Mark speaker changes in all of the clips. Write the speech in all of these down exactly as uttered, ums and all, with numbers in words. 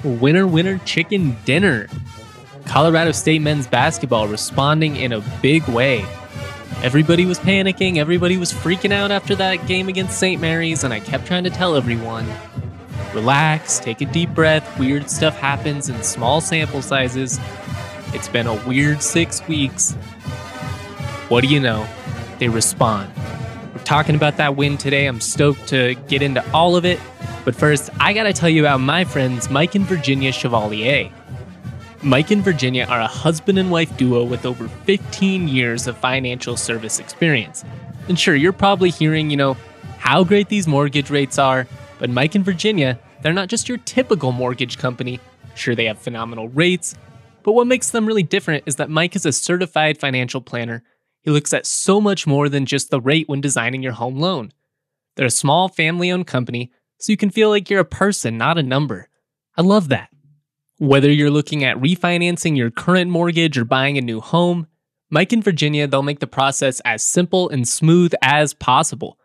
Speaker 1: Winner, winner, chicken dinner. Colorado State men's basketball responding in a big way. Everybody was panicking, everybody was freaking out after that game against Saint Mary's, and I kept trying to tell everyone, relax, take a deep breath, weird stuff happens in small sample sizes. It's been a weird six weeks. What do you know? They respond. We're talking about that win today. I'm stoked to get into all of it. But first, I gotta tell you about my friends Mike and Virginia Chevalier. Mike and Virginia are a husband and wife duo with over fifteen years of financial service experience. And sure, you're probably hearing, you know, how great these mortgage rates are, but Mike and Virginia, they're not just your typical mortgage company. Sure, they have phenomenal rates, but what makes them really different is that Mike is a certified financial planner. He looks at so much more than just the rate when designing your home loan. They're a small family-owned company, so you can feel like you're a person, not a number. I love that. Whether you're looking at refinancing your current mortgage or buying a new home, Mike and Virginia, they'll make the process as simple and smooth as possible.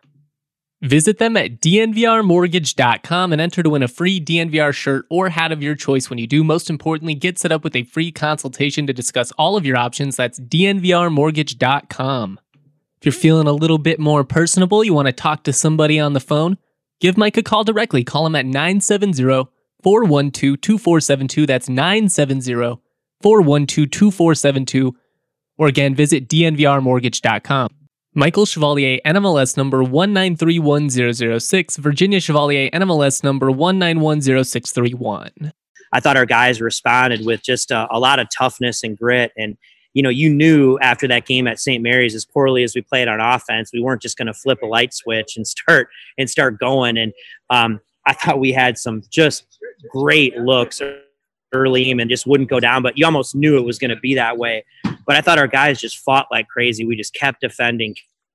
Speaker 1: Visit them at d n v r mortgage dot com and enter to win a free D N V R shirt or hat of your choice when you do. Most importantly, get set up with a free consultation to discuss all of your options. That's d n v r mortgage dot com. If you're feeling a little bit more personable, you want to talk to somebody on the phone, give Mike a call directly. Call him at nine seven zero, four one two, two four seven two. That's nine seven zero, four one two, two four seven two. Or again, visit d n v r mortgage dot com. Michael Chevalier, N M L S number one nine three one zero zero six. Virginia Chevalier, N M L S number one nine one zero six three one.
Speaker 2: I thought our guys responded with just a, a lot of toughness and grit. And, you know, you knew after that game at Saint Mary's, as poorly as we played on offense, we weren't just going to flip a light switch and start and start going. And um, I thought we had some just great looks early and just wouldn't go down, but you almost knew it was going to be that way. But I thought our guys just fought like crazy. We just kept defending.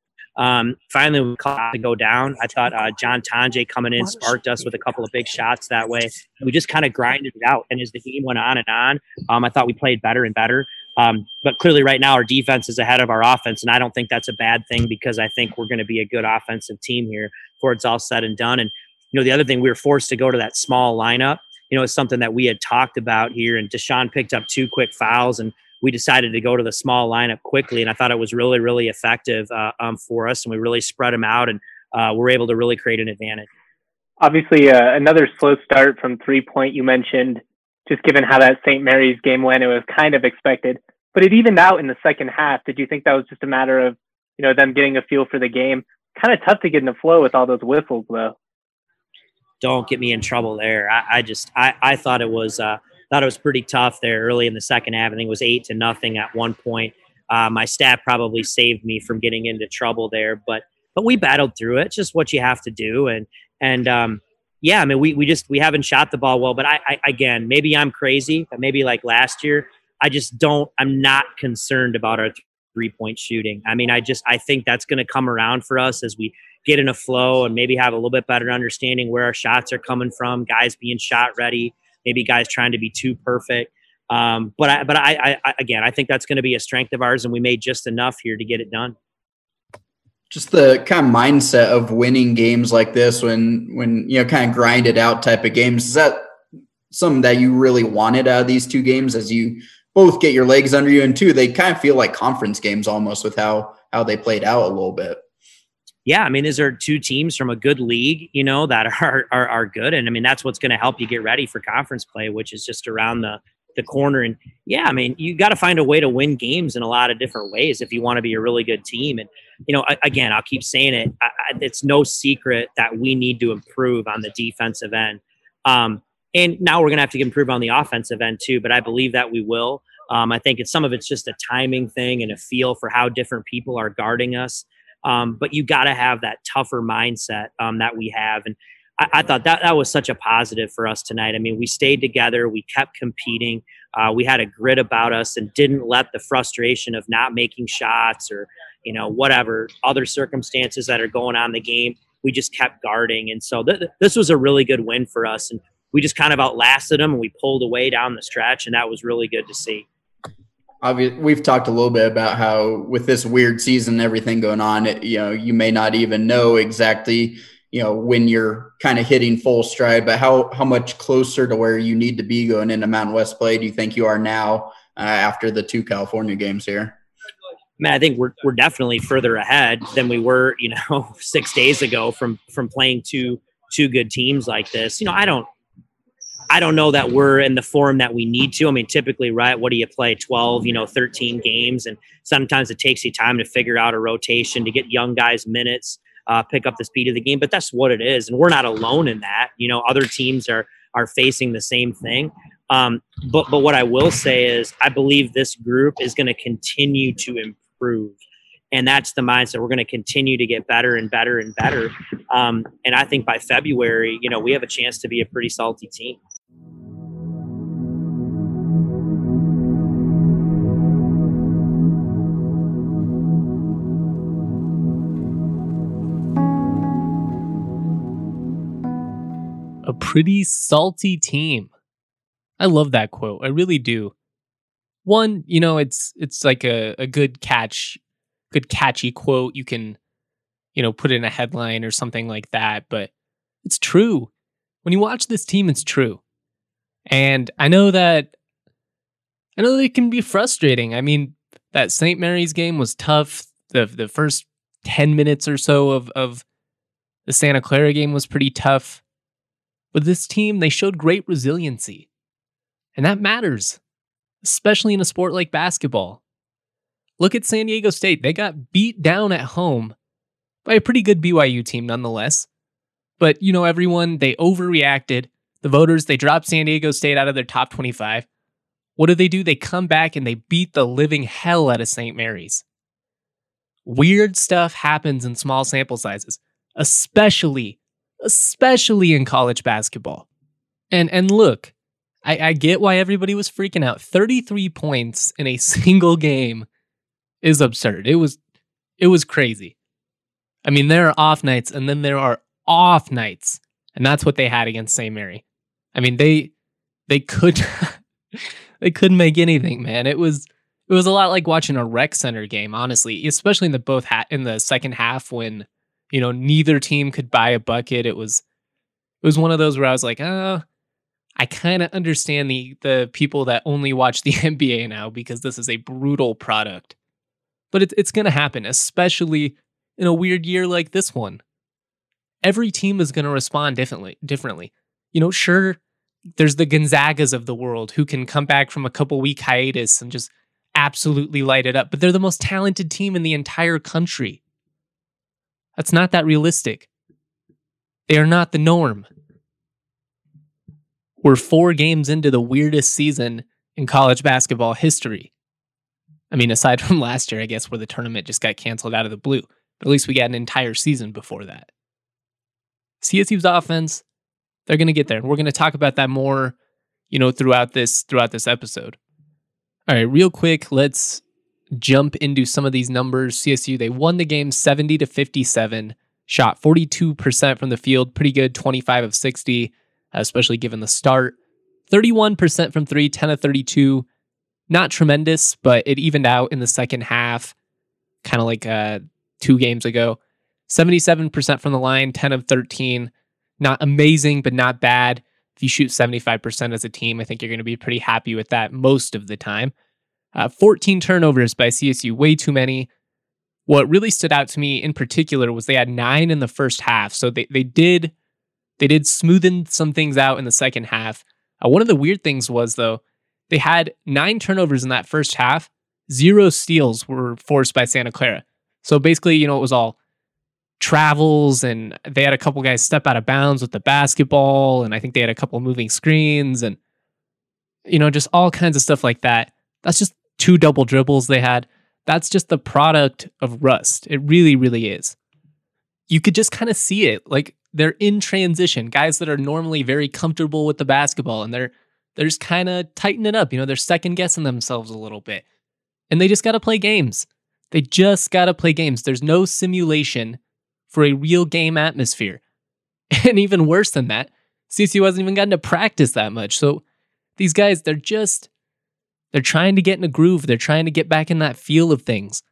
Speaker 2: Um, finally, we caught to go down. I thought uh, John Tonje coming in sparked us with a couple of big shots that way. We just kind of grinded it out. And as the game went on and on, um, I thought we played better and better. Um, but clearly right now our defense is ahead of our offense, and I don't think that's a bad thing because I think we're going to be a good offensive team here before it's all said and done. And, you know, the other thing, we were forced to go to that small lineup. You know, it's something that we had talked about here, and Deshaun picked up two quick fouls, and we decided to go to the small lineup quickly. And I thought it was really, really effective uh, um, for us. And we really spread them out, and uh, we're able to really create an advantage.
Speaker 3: Obviously, uh, another slow start from three point you mentioned, just given how that Saint Mary's game went, it was kind of expected. But it evened out in the second half. Did you think that was just a matter of, you know, them getting a feel for the game? Kind of tough to get in the flow with all those whistles, though.
Speaker 2: Don't get me in trouble there. I, I just, I, I thought it was, uh, thought it was pretty tough there early in the second half. I think it was eight to nothing at one point. Uh, my stat probably saved me from getting into trouble there, but, but we battled through it. It's just what you have to do. And, and, um, yeah, I mean, we, we just, we haven't shot the ball well, but I, I, again, maybe I'm crazy, but maybe like last year, I just don't, I'm not concerned about our three point shooting. I mean, I just, I think that's going to come around for us as we get in a flow and maybe have a little bit better understanding where our shots are coming from, guys being shot ready, maybe guys trying to be too perfect. Um, but I, but I, I, again, I think that's going to be a strength of ours, and we made just enough here to get it done.
Speaker 4: Just the kind of mindset of winning games like this, when, when, you know, kind of grind it out type of games, is that something that you really wanted out of these two games, as you both get your legs under you, and two, they kind of feel like conference games almost with how, how they played out a little bit?
Speaker 2: Yeah, I mean, these are two teams from a good league, you know, that are are, are good. And I mean, that's what's going to help you get ready for conference play, which is just around the, the corner. And yeah, I mean, you got to find a way to win games in a lot of different ways if you want to be a really good team. And, you know, I, again, I'll keep saying it. I, I, it's no secret that we need to improve on the defensive end. Um, and now we're going to have to improve on the offensive end too, but I believe that we will. Um, I think it's some of it's just a timing thing and a feel for how different people are guarding us. Um, but you got to have that tougher mindset um, that we have. And I, I thought that that was such a positive for us tonight. I mean, we stayed together. We kept competing. Uh, we had a grit about us and didn't let the frustration of not making shots or, you know, whatever other circumstances that are going on in the game. We just kept guarding. And so th- this was a really good win for us. And we just kind of outlasted them, and we pulled away down the stretch. And that was really good to see.
Speaker 4: We've talked a little bit about how with this weird season, everything going on, it, you know, you may not even know exactly, you know, when you're kind of hitting full stride, but how, how much closer to where you need to be going into Mountain West play do you think you are now uh, after the two California games here?
Speaker 2: Man, I think we're we're definitely further ahead than we were, you know, six days ago from from playing two two good teams like this. You know, I don't I don't know that we're in the form that we need to. I mean, typically, right, what do you play? twelve, you know, thirteen games, and sometimes it takes you time to figure out a rotation to get young guys minutes, uh, pick up the speed of the game. But that's what it is, and we're not alone in that. You know, other teams are are facing the same thing. Um, but but what I will say is, I believe this group is going to continue to improve. And that's the mindset. We're going to continue to get better and better and better. Um, and I think by February, you know, we have a chance to be a pretty salty team.
Speaker 1: A pretty salty team. I love that quote. I really do. One, you know, it's it's like a, a good catch, good catchy quote. You can, you know, put in a headline or something like that, but it's true. When you watch this team, it's true. And I know that I know that it can be frustrating. I mean, that Saint Mary's game was tough. The the first ten minutes or so of, of the Santa Clara game was pretty tough. But this team, they showed great resiliency. And that matters, especially in a sport like basketball. Look at San Diego State. They got beat down at home by a pretty good B Y U team nonetheless. But, you know, everyone, they overreacted. The voters, they dropped San Diego State out of their top twenty-five. What do they do? They come back and they beat the living hell out of Saint Mary's. Weird stuff happens in small sample sizes, especially, especially in college basketball. And and look, I, I get why everybody was freaking out. thirty-three points in a single game is absurd. It was it was crazy. I mean, there are off nights and then there are off nights. And that's what they had against Saint Mary. I mean, they they could they couldn't make anything, man. It was it was a lot like watching a rec center game, honestly, especially in the both ha- in the second half when, you know, neither team could buy a bucket. It was it was one of those where I was like, oh, I kind of understand the the people that only watch the N B A now because this is a brutal product. But it, it's going to happen, especially in a weird year like this one. Every team is going to respond differently. Differently, you know. Sure, there's the Gonzagas of the world who can come back from a couple week hiatus and just absolutely light it up. But they're the most talented team in the entire country. That's not that realistic. They are not the norm. We're four games into the weirdest season in college basketball history. I mean, aside from last year, I guess, where the tournament just got canceled out of the blue. But at least we got an entire season before that. C S U's offense, they're going to get there. And we're going to talk about that more, you know, throughout this throughout this episode. All right, real quick, let's jump into some of these numbers. C S U, they won the game seventy to fifty-seven, shot forty-two percent from the field, pretty good, twenty-five of sixty, especially given the start. thirty-one percent from three, ten of thirty-two. Not tremendous, but it evened out in the second half, kind of like uh, two games ago. seventy-seven percent from the line, ten of thirteen. Not amazing, but not bad. If you shoot seventy-five percent as a team, I think you're going to be pretty happy with that most of the time. Uh, fourteen turnovers by C S U, way too many. What really stood out to me in particular was they had nine in the first half. So they, they did they did smoothen some things out in the second half. Uh, one of the weird things was, though, they had nine turnovers in that first half. Zero steals were forced by Santa Clara. So basically, you know, it was all travels, and they had a couple guys step out of bounds with the basketball, and I think they had a couple moving screens, and, you know, just all kinds of stuff like that. That's just two double dribbles they had. That's just the product of rust. It really, really is. You could just kind of see it. Like, they're in transition. Guys that are normally very comfortable with the basketball, and they're they're just kind of tightening it up. You know, they're second guessing themselves a little bit. And they just got to play games. They just got to play games. There's no simulation for a real game atmosphere. And even worse than that, C S U hasn't even gotten to practice that much. So these guys, they're just, they're trying to get in a groove. They're trying to get back in that feel of things.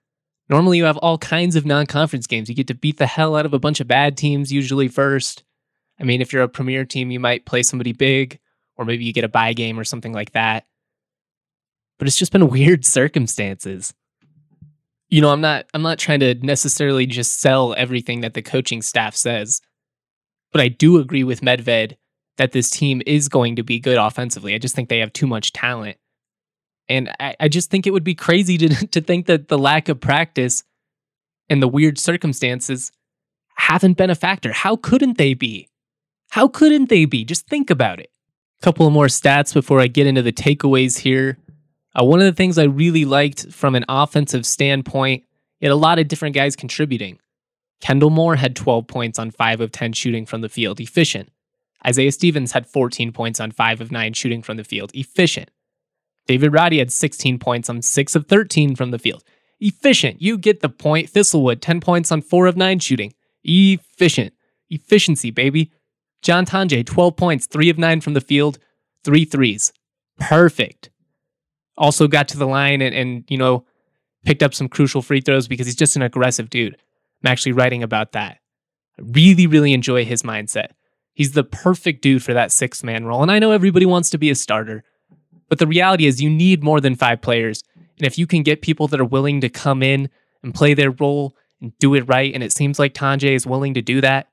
Speaker 1: Normally you have all kinds of non-conference games. You get to beat the hell out of a bunch of bad teams usually first. I mean, if you're a premier team, you might play somebody big, or maybe you get a bye game or something like that. But it's just been weird circumstances. You know, I'm not I'm not trying to necessarily just sell everything that the coaching staff says, but I do agree with Medved that this team is going to be good offensively. I just think they have too much talent. And I, I just think it would be crazy to, to think that the lack of practice and the weird circumstances haven't been a factor. How couldn't they be? How couldn't they be? Just think about it. A couple of more stats before I get into the takeaways here. Uh, one of the things I really liked from an offensive standpoint, you had a lot of different guys contributing. Kendall Moore had twelve points on five of ten shooting from the field, efficient. Isaiah Stevens had fourteen points on five of nine shooting from the field, efficient. David Roddy had sixteen points on six of thirteen from the field, efficient. You get the point. Thistlewood, ten points on four of nine shooting, efficient. Efficiency, baby. John Tonje, twelve points, three of nine from the field, three threes. Perfect. Also got to the line and, and, you know, picked up some crucial free throws because he's just an aggressive dude. I'm actually writing about that. I really, really enjoy his mindset. He's the perfect dude for that six-man role. And I know everybody wants to be a starter, but the reality is you need more than five players. And if you can get people that are willing to come in and play their role and do it right, and it seems like Tonje is willing to do that,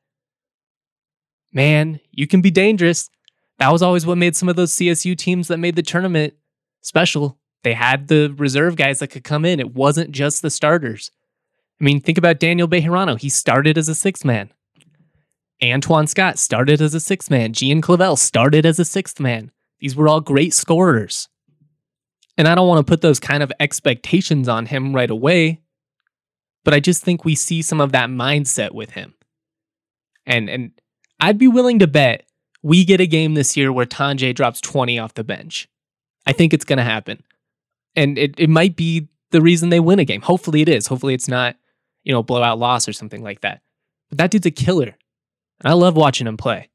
Speaker 1: man, you can be dangerous. That was always what made some of those C S U teams that made the tournament special. They had the reserve guys that could come in. It wasn't just the starters. I mean, think about Daniel Bejarano. He started as a sixth man. Antoine Scott started as a sixth man. Gian Clavel started as a sixth man. These were all great scorers. And I don't want to put those kind of expectations on him right away, but I just think we see some of that mindset with him. And and I'd be willing to bet we get a game this year where Tonje drops twenty off the bench. I think it's going to happen. And it, it might be the reason they win a game. Hopefully it is. Hopefully it's not, you know, blowout loss or something like that. But that dude's a killer. And I love watching him play.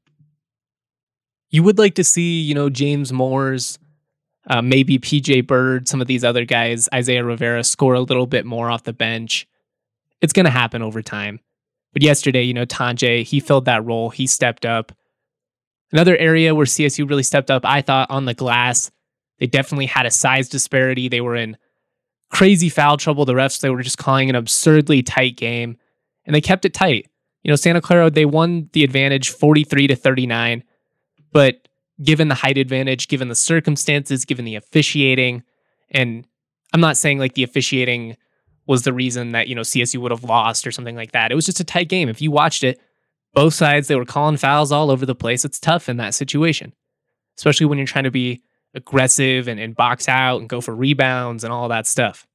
Speaker 1: You would like to see, you know, James Moore's, uh, maybe P J Bird, some of these other guys, Isaiah Rivera, score a little bit more off the bench. It's going to happen over time. But yesterday, you know, Tonje, he filled that role. He stepped up. Another area where C S U really stepped up, I thought, on the glass. They definitely had a size disparity. They were in crazy foul trouble. The refs, they were just calling an absurdly tight game. And they kept it tight. You know, Santa Clara, they won the advantage forty-three to thirty-nine. But given the height advantage, given the circumstances, given the officiating, and I'm not saying like the officiating was the reason that, you know, C S U would have lost or something like that. It was just a tight game. If you watched it, both sides, they were calling fouls all over the place. It's tough in that situation, especially when you're trying to be aggressive and, and box out and go for rebounds and all that stuff.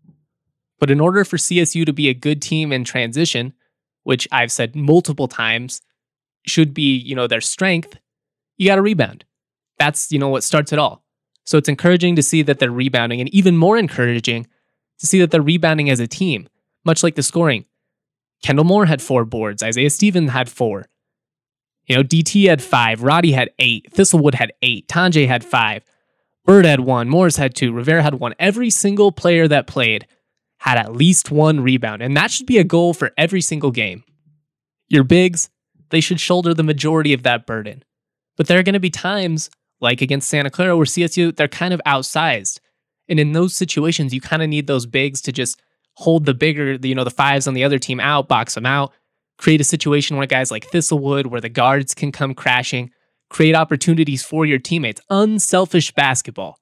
Speaker 1: But in order for C S U to be a good team in transition, which I've said multiple times should be, you know, their strength, you got to rebound. That's, you know, what starts it all. So it's encouraging to see that they're rebounding, and even more encouraging to see that they're rebounding as a team, much like the scoring. Kendall Moore had four boards. Isaiah Stevens had four. You know, D T had five. Roddy had eight. Thistlewood had eight. Tonje had five. Bird had one. Morris had two. Rivera had one. Every single player that played had at least one rebound, and that should be a goal for every single game. Your bigs, they should shoulder the majority of that burden. But there are going to be times, like against Santa Clara, where C S U, they're kind of outsized. And in those situations, you kind of need those bigs to just hold the bigger, you know, the fives on the other team out, box them out, create a situation where guys like Thistlewood, where the guards can come crashing, create opportunities for your teammates. Unselfish basketball.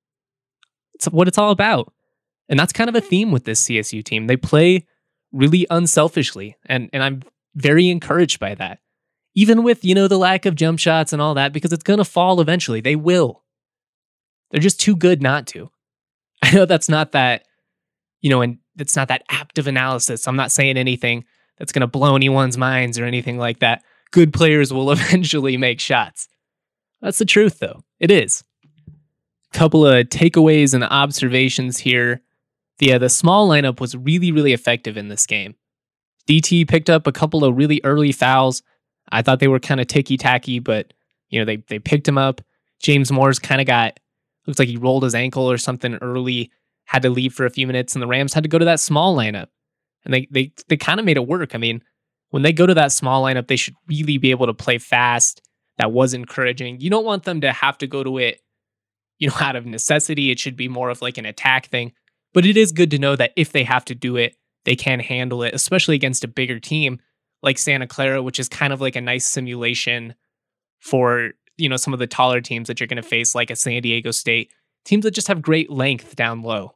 Speaker 1: It's what it's all about. And that's kind of a theme with this C S U team. They play really unselfishly, and, and I'm very encouraged by that. Even with, you know, the lack of jump shots and all that, because it's going to fall eventually. They will. They're just too good not to. I know that's not that, you know, and it's not that apt of analysis. I'm not saying anything that's going to blow anyone's minds or anything like that. Good players will eventually make shots. That's the truth, though. It is. Couple of takeaways and observations here. The, uh, the small lineup was really, really effective in this game. D T picked up a couple of really early fouls. I thought they were kind of ticky-tacky, but, you know, they, they picked him up. James Moore's kind of got, looks like he rolled his ankle or something early, had to leave for a few minutes, and the Rams had to go to that small lineup. And they they they kind of made it work. I mean, when they go to that small lineup, they should really be able to play fast. That was encouraging. You don't want them to have to go to it, you know, out of necessity. It should be more of like an attack thing. But it is good to know that if they have to do it, they can handle it, especially against a bigger team like Santa Clara, which is kind of like a nice simulation for, you know, some of the taller teams that you're going to face, like a San Diego State, teams that just have great length down low.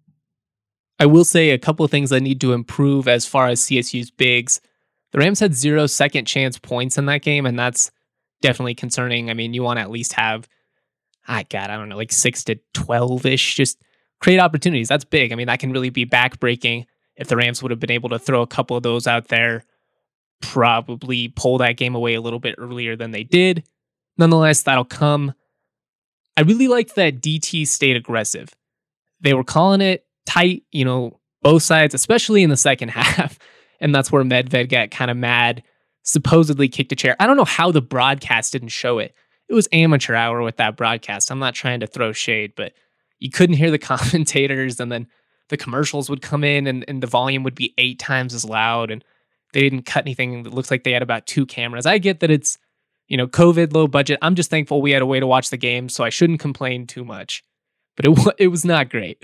Speaker 1: I will say a couple of things that need to improve as far as C S U's bigs. The Rams had zero second chance points in that game, and that's definitely concerning. I mean, you want to at least have, I God, I don't know, like six to twelve-ish, just create opportunities. That's big. I mean, that can really be backbreaking. If the Rams would have been able to throw a couple of those out there, probably pull that game away a little bit earlier than they did. Nonetheless, that'll come. I really liked that D T stayed aggressive. They were calling it tight, you know, both sides, especially in the second half. And that's where Medved got kind of mad, supposedly kicked a chair. I don't know how the broadcast didn't show it. It was amateur hour with that broadcast. I'm not trying to throw shade, but you couldn't hear the commentators, and then the commercials would come in and, and the volume would be eight times as loud, and they didn't cut anything. It looks like they had about two cameras. I get that it's, you know, COVID, low budget. I'm just thankful we had a way to watch the game, so I shouldn't complain too much. But it, it was not great.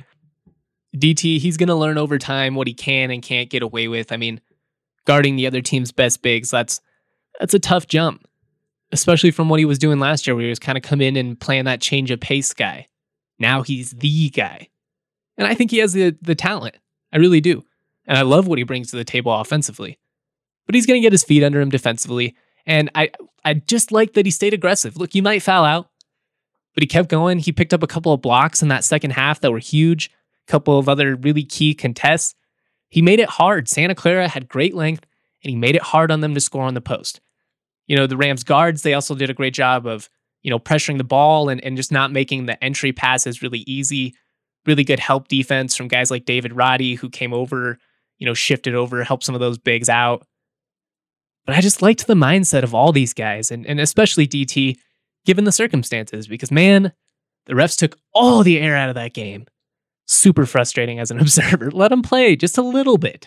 Speaker 1: D T, he's going to learn over time what he can and can't get away with. I mean, guarding the other team's best bigs, that's that's a tough jump, especially from what he was doing last year, where he was kind of come in and playing that change of pace guy. Now he's the guy. And I think he has the, the talent. I really do. And I love what he brings to the table offensively. But he's going to get his feet under him defensively. And I, I just like that he stayed aggressive. Look, he might foul out, but he kept going. He picked up a couple of blocks in that second half that were huge. A couple of other really key contests. He made it hard. Santa Clara had great length, and he made it hard on them to score on the post. You know, the Rams guards, they also did a great job of, you know, pressuring the ball and, and just not making the entry passes really easy. Really good help defense from guys like David Roddy, who came over, you know, shifted over, helped some of those bigs out. But I just liked the mindset of all these guys, and, and especially D T, given the circumstances, because, man, the refs took all the air out of that game. Super frustrating as an observer. Let them play just a little bit.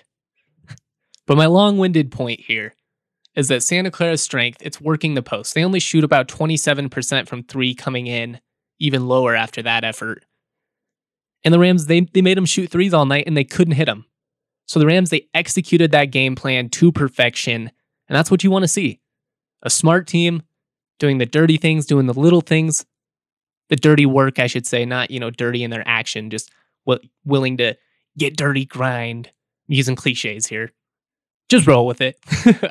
Speaker 1: But my long-winded point here is that Santa Clara's strength, it's working the post. They only shoot about twenty-seven percent from three coming in, even lower after that effort. And the Rams, they, they made them shoot threes all night, and they couldn't hit them. So the Rams, they executed that game plan to perfection, and that's what you want to see. A smart team doing the dirty things, doing the little things, the dirty work, I should say, not, you know, dirty in their action, just w- willing to get dirty, grind. I'm using cliches here. Just roll with it.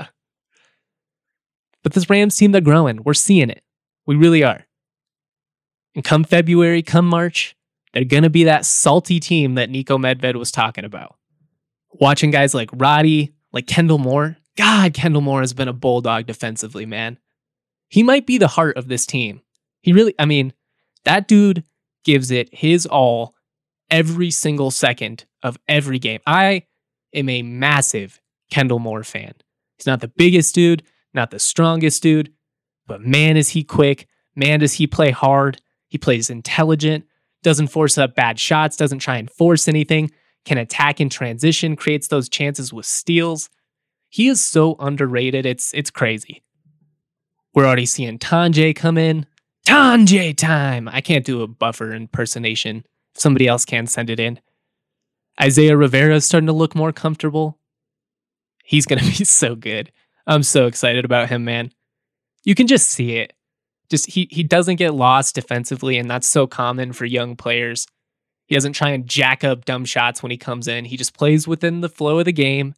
Speaker 1: But this Rams team, they're growing. We're seeing it. We really are. And come February, come March, they're going to be that salty team that Niko Medved was talking about. Watching guys like Roddy, like Kendall Moore. God, Kendall Moore has been a bulldog defensively, man. He might be the heart of this team. He really, I mean, that dude gives it his all every single second of every game. I am a massive Kendall Moore fan. He's not the biggest dude, not the strongest dude, but man, is he quick. Man, does he play hard. He plays intelligent, doesn't force up bad shots, doesn't try and force anything, can attack in transition, creates those chances with steals. He is so underrated. It's it's crazy. We're already seeing Tanjay come in. Tanjay time. I can't do a Buffer impersonation. If somebody else can, send it in. Isaiah Rivera is starting to look more comfortable. He's going to be so good. I'm so excited about him, man. You can just see it. Just he he doesn't get lost defensively, and that's so common for young players. He doesn't try and jack up dumb shots when he comes in. He just plays within the flow of the game.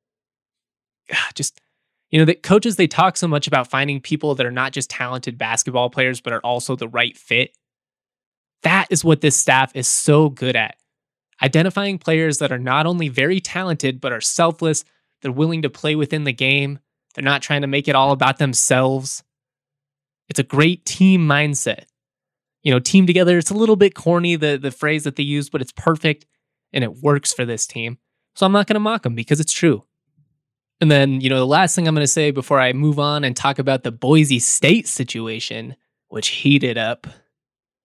Speaker 1: Just, you know, the coaches, they talk so much about finding people that are not just talented basketball players, but are also the right fit. That is what this staff is so good at. Identifying players that are not only very talented, but are selfless. They're willing to play within the game. They're not trying to make it all about themselves. It's a great team mindset. You know, team together, it's a little bit corny, the, the phrase that they use, but it's perfect and it works for this team. So I'm not going to mock them because it's true. And then, you know, the last thing I'm going to say before I move on and talk about the Boise State situation, which heated up.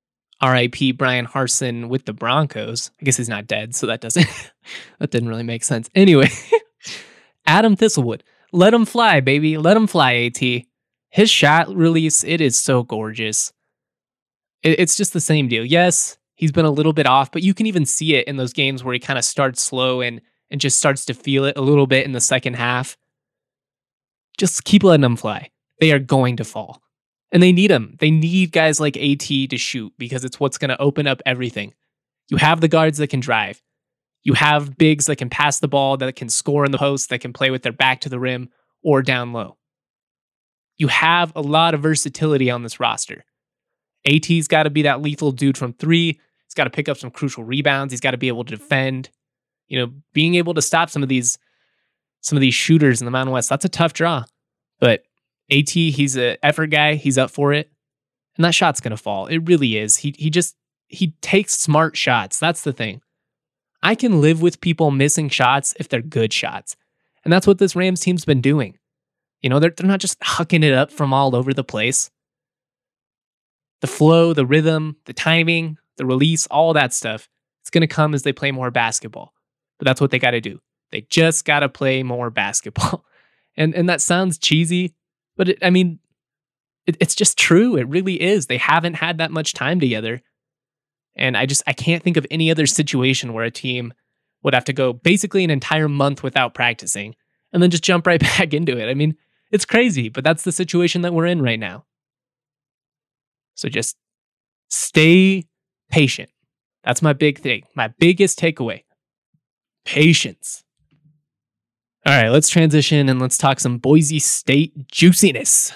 Speaker 1: R I P Brian Harsin with the Broncos. I guess he's not dead, so that doesn't that didn't really make sense. Anyway, Adam Thistlewood. Let him fly, baby. Let him fly, AT. His shot release, it is so gorgeous. It, it's just the same deal. Yes, he's been a little bit off, but you can even see it in those games where he kind of starts slow and, and just starts to feel it a little bit in the second half. Just keep letting them fly. They are going to fall. And they need them. They need guys like AT to shoot because it's what's going to open up everything. You have the guards that can drive. You have bigs that can pass the ball, that can score in the post, that can play with their back to the rim or down low. You have a lot of versatility on this roster. AT's got to be that lethal dude from three. He's got to pick up some crucial rebounds. He's got to be able to defend. You know, being able to stop some of these some of these shooters in the Mountain West, that's a tough draw. But AT, he's an effort guy. He's up for it. And that shot's going to fall. It really is. He he just, he takes smart shots. That's the thing. I can live with people missing shots if they're good shots. And that's what this Rams team's been doing. You know, they're, they're not just hucking it up from all over the place. The flow, the rhythm, the timing, the release, all that stuff, it's going to come as they play more basketball. But that's what they got to do. They just got to play more basketball. And and that sounds cheesy, but it, I mean, it, it's just true. It really is. They haven't had that much time together. And I just, I can't think of any other situation where a team would have to go basically an entire month without practicing and then just jump right back into it. I mean, it's crazy, but that's the situation that we're in right now. So just stay patient. That's my big thing. My biggest takeaway. Patience. All right, let's transition and let's talk some Boise State juiciness.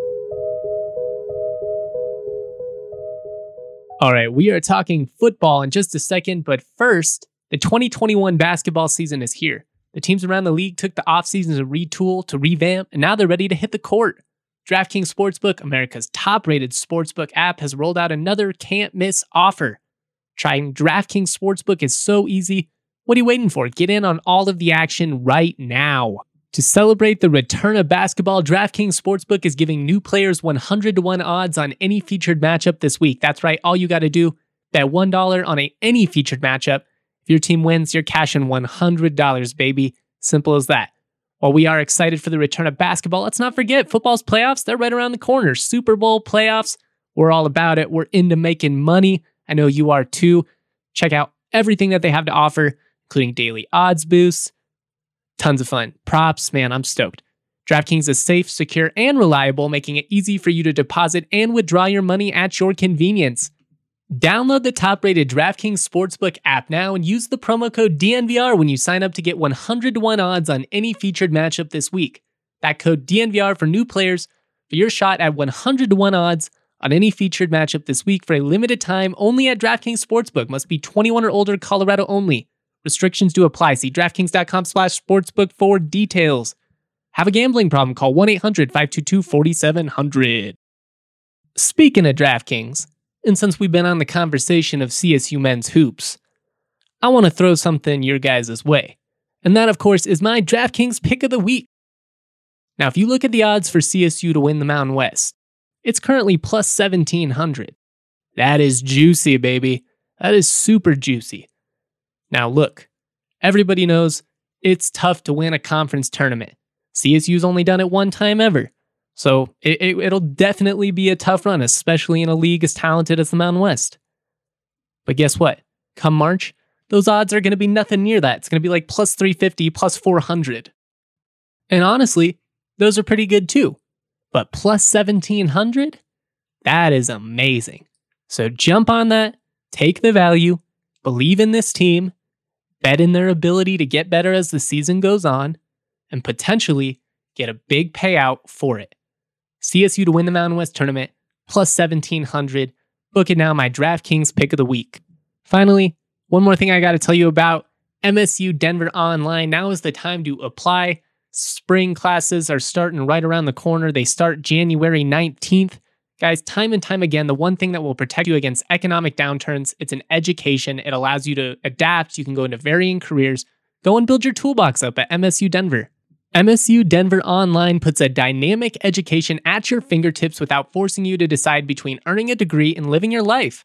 Speaker 1: All right, we are talking football in just a second, but first, the twenty twenty-one basketball season is here. The teams around the league took the offseason to retool, to revamp, and now they're ready to hit the court. DraftKings Sportsbook, America's top-rated sportsbook app, has rolled out another can't-miss offer. Trying DraftKings Sportsbook is so easy. What are you waiting for? Get in on all of the action right now. To celebrate the return of basketball, DraftKings Sportsbook is giving new players one hundred to one odds on any featured matchup this week. That's right, all you got to do, bet one dollar on a, any featured matchup. If your team wins, you're cashing one hundred dollars, baby. Simple as that. While we are excited for the return of basketball, let's not forget football's playoffs. They're right around the corner. Super Bowl playoffs. We're all about it. We're into making money. I know you are too. Check out everything that they have to offer, including daily odds boosts. Tons of fun. Props, man, I'm stoked. DraftKings is safe, secure, and reliable, making it easy for you to deposit and withdraw your money at your convenience. Download the top-rated DraftKings Sportsbook app now and use the promo code D N V R when you sign up to get one hundred to one odds on any featured matchup this week. That code D N V R for new players for your shot at one hundred to one odds on any featured matchup this week for a limited time only at DraftKings Sportsbook. Must be twenty-one or older, Colorado only. Restrictions do apply. See DraftKings.com slash sportsbook for details. Have a gambling problem? Call one eight hundred five two two four seven zero zero. Speaking of DraftKings, and since we've been on the conversation of C S U men's hoops, I want to throw something your guys' way. And that, of course, is my DraftKings pick of the week. Now, if you look at the odds for C S U to win the Mountain West, it's currently plus seventeen hundred. That is juicy, baby. That is super juicy. Now look, everybody knows it's tough to win a conference tournament. C S U's only done it one time ever. So it, it, it'll definitely be a tough run, especially in a league as talented as the Mountain West. But guess what? Come March, those odds are going to be nothing near that. It's going to be like plus three fifty, plus four hundred. And honestly, those are pretty good too. But plus seventeen hundred? That is amazing. So jump on that, take the value, believe in this team, bet in their ability to get better as the season goes on, and potentially get a big payout for it. C S U to win the Mountain West tournament, plus seventeen hundred. Book it now, my DraftKings pick of the week. Finally, one more thing I got to tell you about. M S U Denver Online. Now is the time to apply. Spring classes are starting right around the corner. They start January nineteenth. Guys, time and time again, the one thing that will protect you against economic downturns, it's an education. It allows you to adapt. You can go into varying careers. Go and build your toolbox up at M S U Denver. M S U Denver Online puts a dynamic education at your fingertips without forcing you to decide between earning a degree and living your life.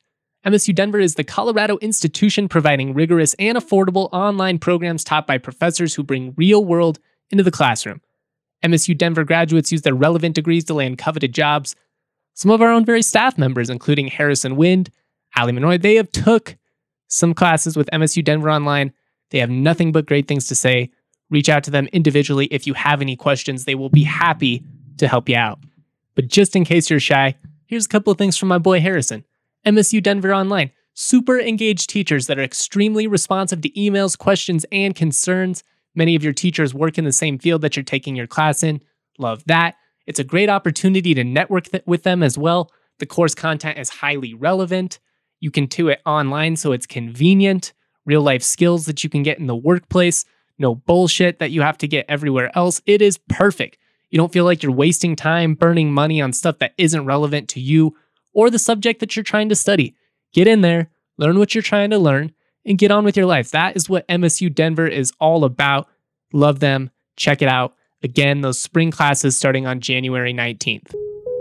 Speaker 1: M S U Denver is the Colorado institution providing rigorous and affordable online programs taught by professors who bring real world into the classroom. M S U Denver graduates use their relevant degrees to land coveted jobs. Some of our own very staff members, including Harrison Wind, Ali Manoy, they have took some classes with M S U Denver Online. They have nothing but great things to say. Reach out to them individually if you have any questions. They will be happy to help you out. But just in case you're shy, here's a couple of things from my boy Harrison. M S U Denver Online. Super engaged teachers that are extremely responsive to emails, questions, and concerns. Many of your teachers work in the same field that you're taking your class in. Love that. It's a great opportunity to network th- with them as well. The course content is highly relevant. You can do it online, so it's convenient. Real life skills that you can get in the workplace. No bullshit that you have to get everywhere else. It is perfect. You don't feel like you're wasting time burning money on stuff that isn't relevant to you or the subject that you're trying to study. Get in there, learn what you're trying to learn, and get on with your life. That is what M S U Denver is all about. Love them. Check it out. Again, those spring classes starting on January nineteenth.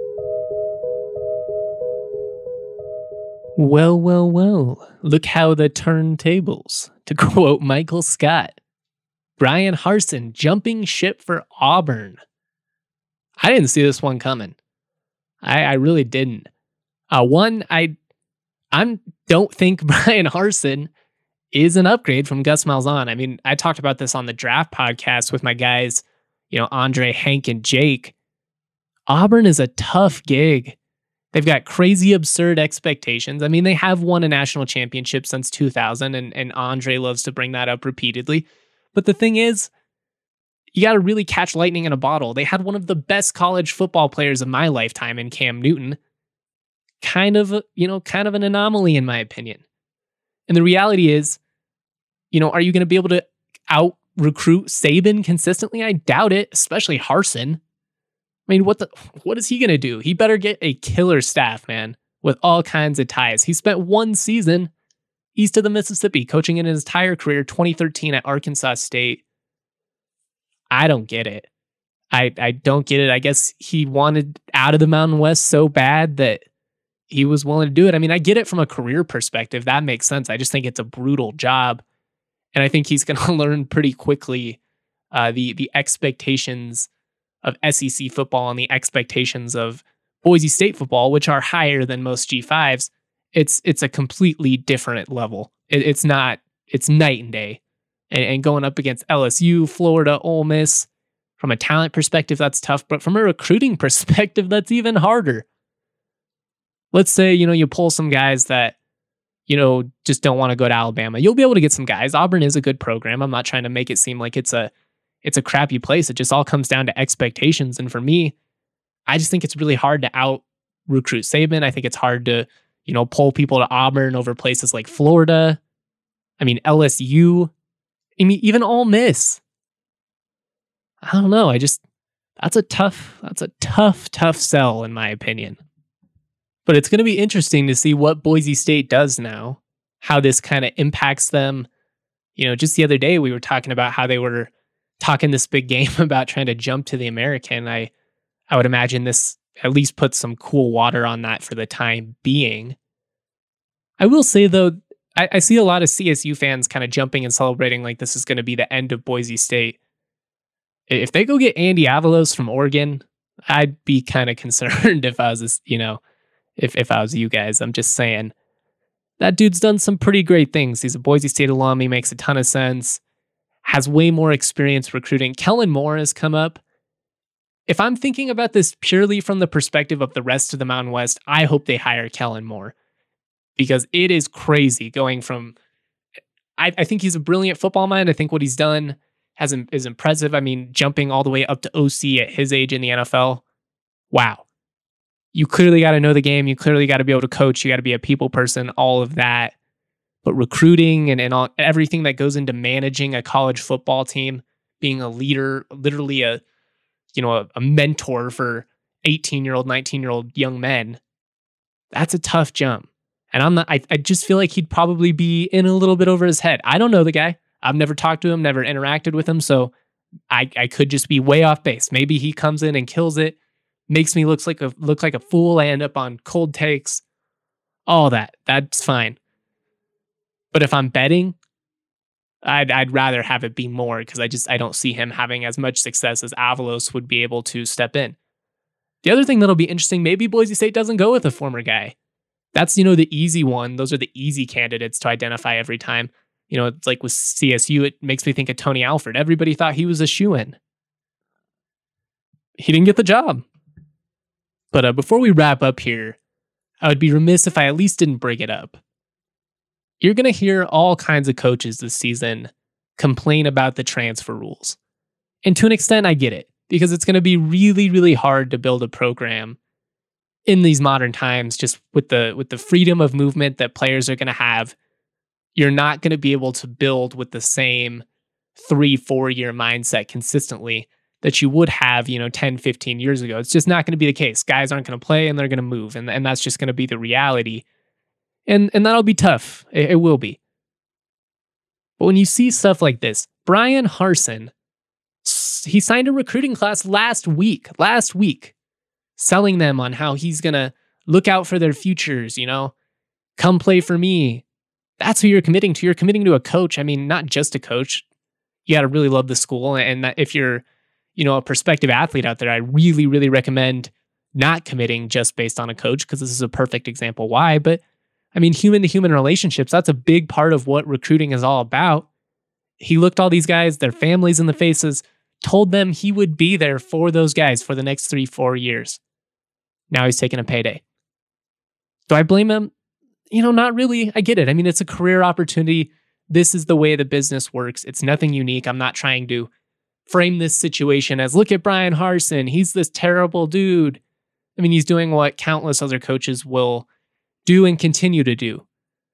Speaker 1: Well, well, well. Look how the turntables, to quote Michael Scott. Brian Harsin jumping ship for Auburn. I didn't see this one coming. I, I really didn't. Uh, one, I I don't think Brian Harsin is an upgrade from Gus Malzahn. I mean, I talked about this on the draft podcast with my guys, you know, Andre, Hank, and Jake. Auburn is a tough gig. They've got crazy, absurd expectations. I mean, they have won a national championship since two thousand, and, and Andre loves to bring that up repeatedly. But the thing is, you got to really catch lightning in a bottle. They had one of the best college football players of my lifetime in Cam Newton. Kind of, a, you know, kind of an anomaly in my opinion. And the reality is, you know, are you going to be able to out recruit Saban consistently? I doubt it, especially Harsin. I mean, what the, what is he going to do? He better get a killer staff, man, with all kinds of ties. He spent one season east of the Mississippi, coaching in his entire career, twenty thirteen at Arkansas State. I don't get it. I, I don't get it. I guess he wanted out of the Mountain West so bad that he was willing to do it. I mean, I get it from a career perspective. That makes sense. I just think it's a brutal job. And I think he's going to learn pretty quickly uh, the the expectations of S E C football and the expectations of Boise State football, which are higher than most G fives. It's it's a completely different level. It, it's not, it's night and day. And, and going up against L S U, Florida, Ole Miss, from a talent perspective, that's tough. But from a recruiting perspective, that's even harder. Let's say, you know, you pull some guys that, you know, just don't want to go to Alabama. You'll be able to get some guys. Auburn is a good program. I'm not trying to make it seem like it's a it's a crappy place. It just all comes down to expectations. And for me, I just think it's really hard to out recruit Saban. I think it's hard to, you know, pull people to Auburn over places like Florida. I mean, L S U. I mean, even Ole Miss. I don't know. I just, that's a tough, that's a tough, tough sell in my opinion. But it's going to be interesting to see what Boise State does now, how this kind of impacts them. You know, just the other day we were talking about how they were talking this big game about trying to jump to the American. I, I would imagine this at least puts some cool water on that for the time being. I will say though, I, I see a lot of C S U fans kind of jumping and celebrating like this is going to be the end of Boise State. If they go get Andy Avalos from Oregon, I'd be kind of concerned if I was, this, you know, if, if I was you guys. I'm just saying that dude's done some pretty great things. He's a Boise State alum. He makes a ton of sense. Has way more experience recruiting. Kellen Moore has come up. If I'm thinking about this purely from the perspective of the rest of the Mountain West, I hope they hire Kellen Moore because it is crazy going from, I, I think he's a brilliant football mind. I think what he's done has is impressive. I mean, jumping all the way up to O C at his age in the N F L. Wow. You clearly got to know the game. You clearly got to be able to coach. You got to be a people person, all of that. But recruiting and, and all, everything that goes into managing a college football team, being a leader, literally a, you know, a, a mentor for eighteen-year-old, nineteen-year-old young men, that's a tough jump. And I'm not, I, I just feel like he'd probably be in a little bit over his head. I don't know the guy. I've never talked to him, never interacted with him. So I, I could just be way off base. Maybe he comes in and kills it, makes me look like a, look like a fool. I end up on cold takes. all that. That's fine. But if I'm betting, I'd I'd rather have it be more because I just I don't see him having as much success as Avalos would be able to step in. The other thing that'll be interesting, maybe Boise State doesn't go with a former guy. That's, you know, the easy one. Those are the easy candidates to identify every time. You know, it's like with C S U, it makes me think of Tony Alford. Everybody thought he was a shoo-in. He didn't get the job. But uh, before we wrap up here, I would be remiss if I at least didn't bring it up. You're going to hear all kinds of coaches this season complain about the transfer rules. And to an extent, I get it, because it's going to be really, really hard to build a program in these modern times, just with the with the freedom of movement that players are going to have. You're not going to be able to build with the same three, four year mindset consistently that you would have, you know, ten, fifteen years ago. It's just not going to be the case. Guys aren't going to play and they're going to move. And, and that's just going to be the reality. And, and that'll be tough. It, it will be. But when you see stuff like this, Bryan Harsin, he signed a recruiting class last week, last week, selling them on how he's going to look out for their futures, you know, come play for me. That's who you're committing to. You're committing to a coach. I mean, not just a coach. You got to really love the school. And that if you're, you know, a prospective athlete out there, I really, really recommend not committing just based on a coach, because this is a perfect example why. But I mean, human to human relationships, that's a big part of what recruiting is all about. He looked all these guys, their families in the faces, told them he would be there for those guys for the next three, four years. Now he's taking a payday. Do I blame him? You know, not really. I get it. I mean, it's a career opportunity. This is the way the business works. It's nothing unique. I'm not trying to frame this situation as, look at Bryan Harsin. He's this terrible dude. I mean, he's doing what countless other coaches will do and continue to do.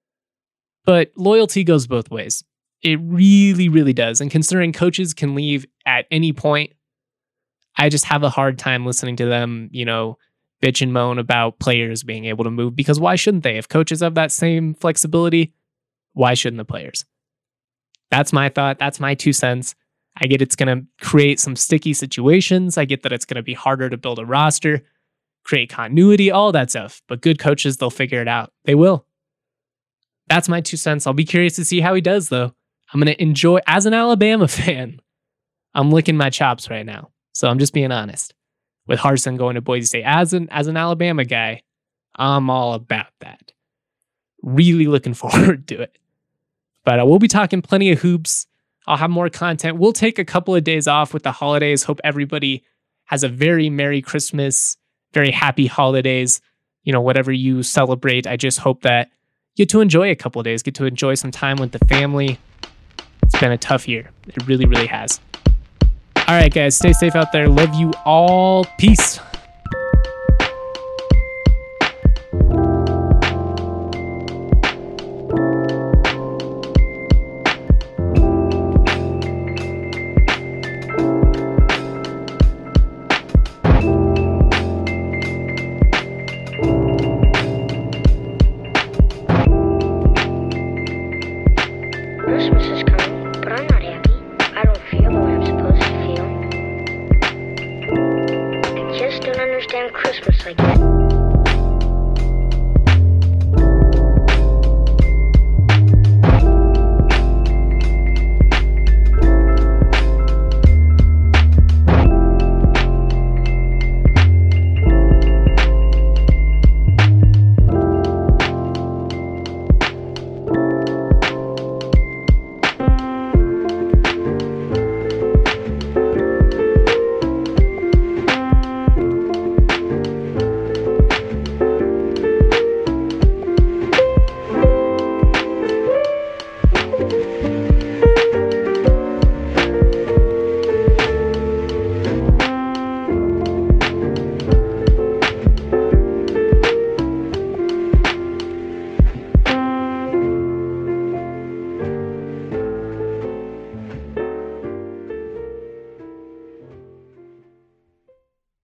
Speaker 1: But loyalty goes both ways. It really, really does. And considering coaches can leave at any point, I just have a hard time listening to them, you know, bitch and moan about players being able to move, because why shouldn't they? If coaches have that same flexibility, why shouldn't the players? That's my thought. That's my two cents. I get it's going to create some sticky situations. I get that it's going to be harder to build a roster, create continuity, all that stuff. But good coaches, they'll figure it out. They will. That's my two cents. I'll be curious to see how he does, though. I'm going to enjoy, as an Alabama fan, I'm licking my chops right now. So I'm just being honest. With Harsin going to Boise State, as an, as an Alabama guy, I'm all about that. Really looking forward to it. But uh, we'll be talking plenty of hoops. I'll have more content. We'll take a couple of days off with the holidays. Hope everybody has a very Merry Christmas, very happy holidays. You know, whatever you celebrate. I just hope that you get to enjoy a couple of days, get to enjoy some time with the family. It's been a tough year. It really, really has. All right, guys, stay safe out there. Love you all. Peace.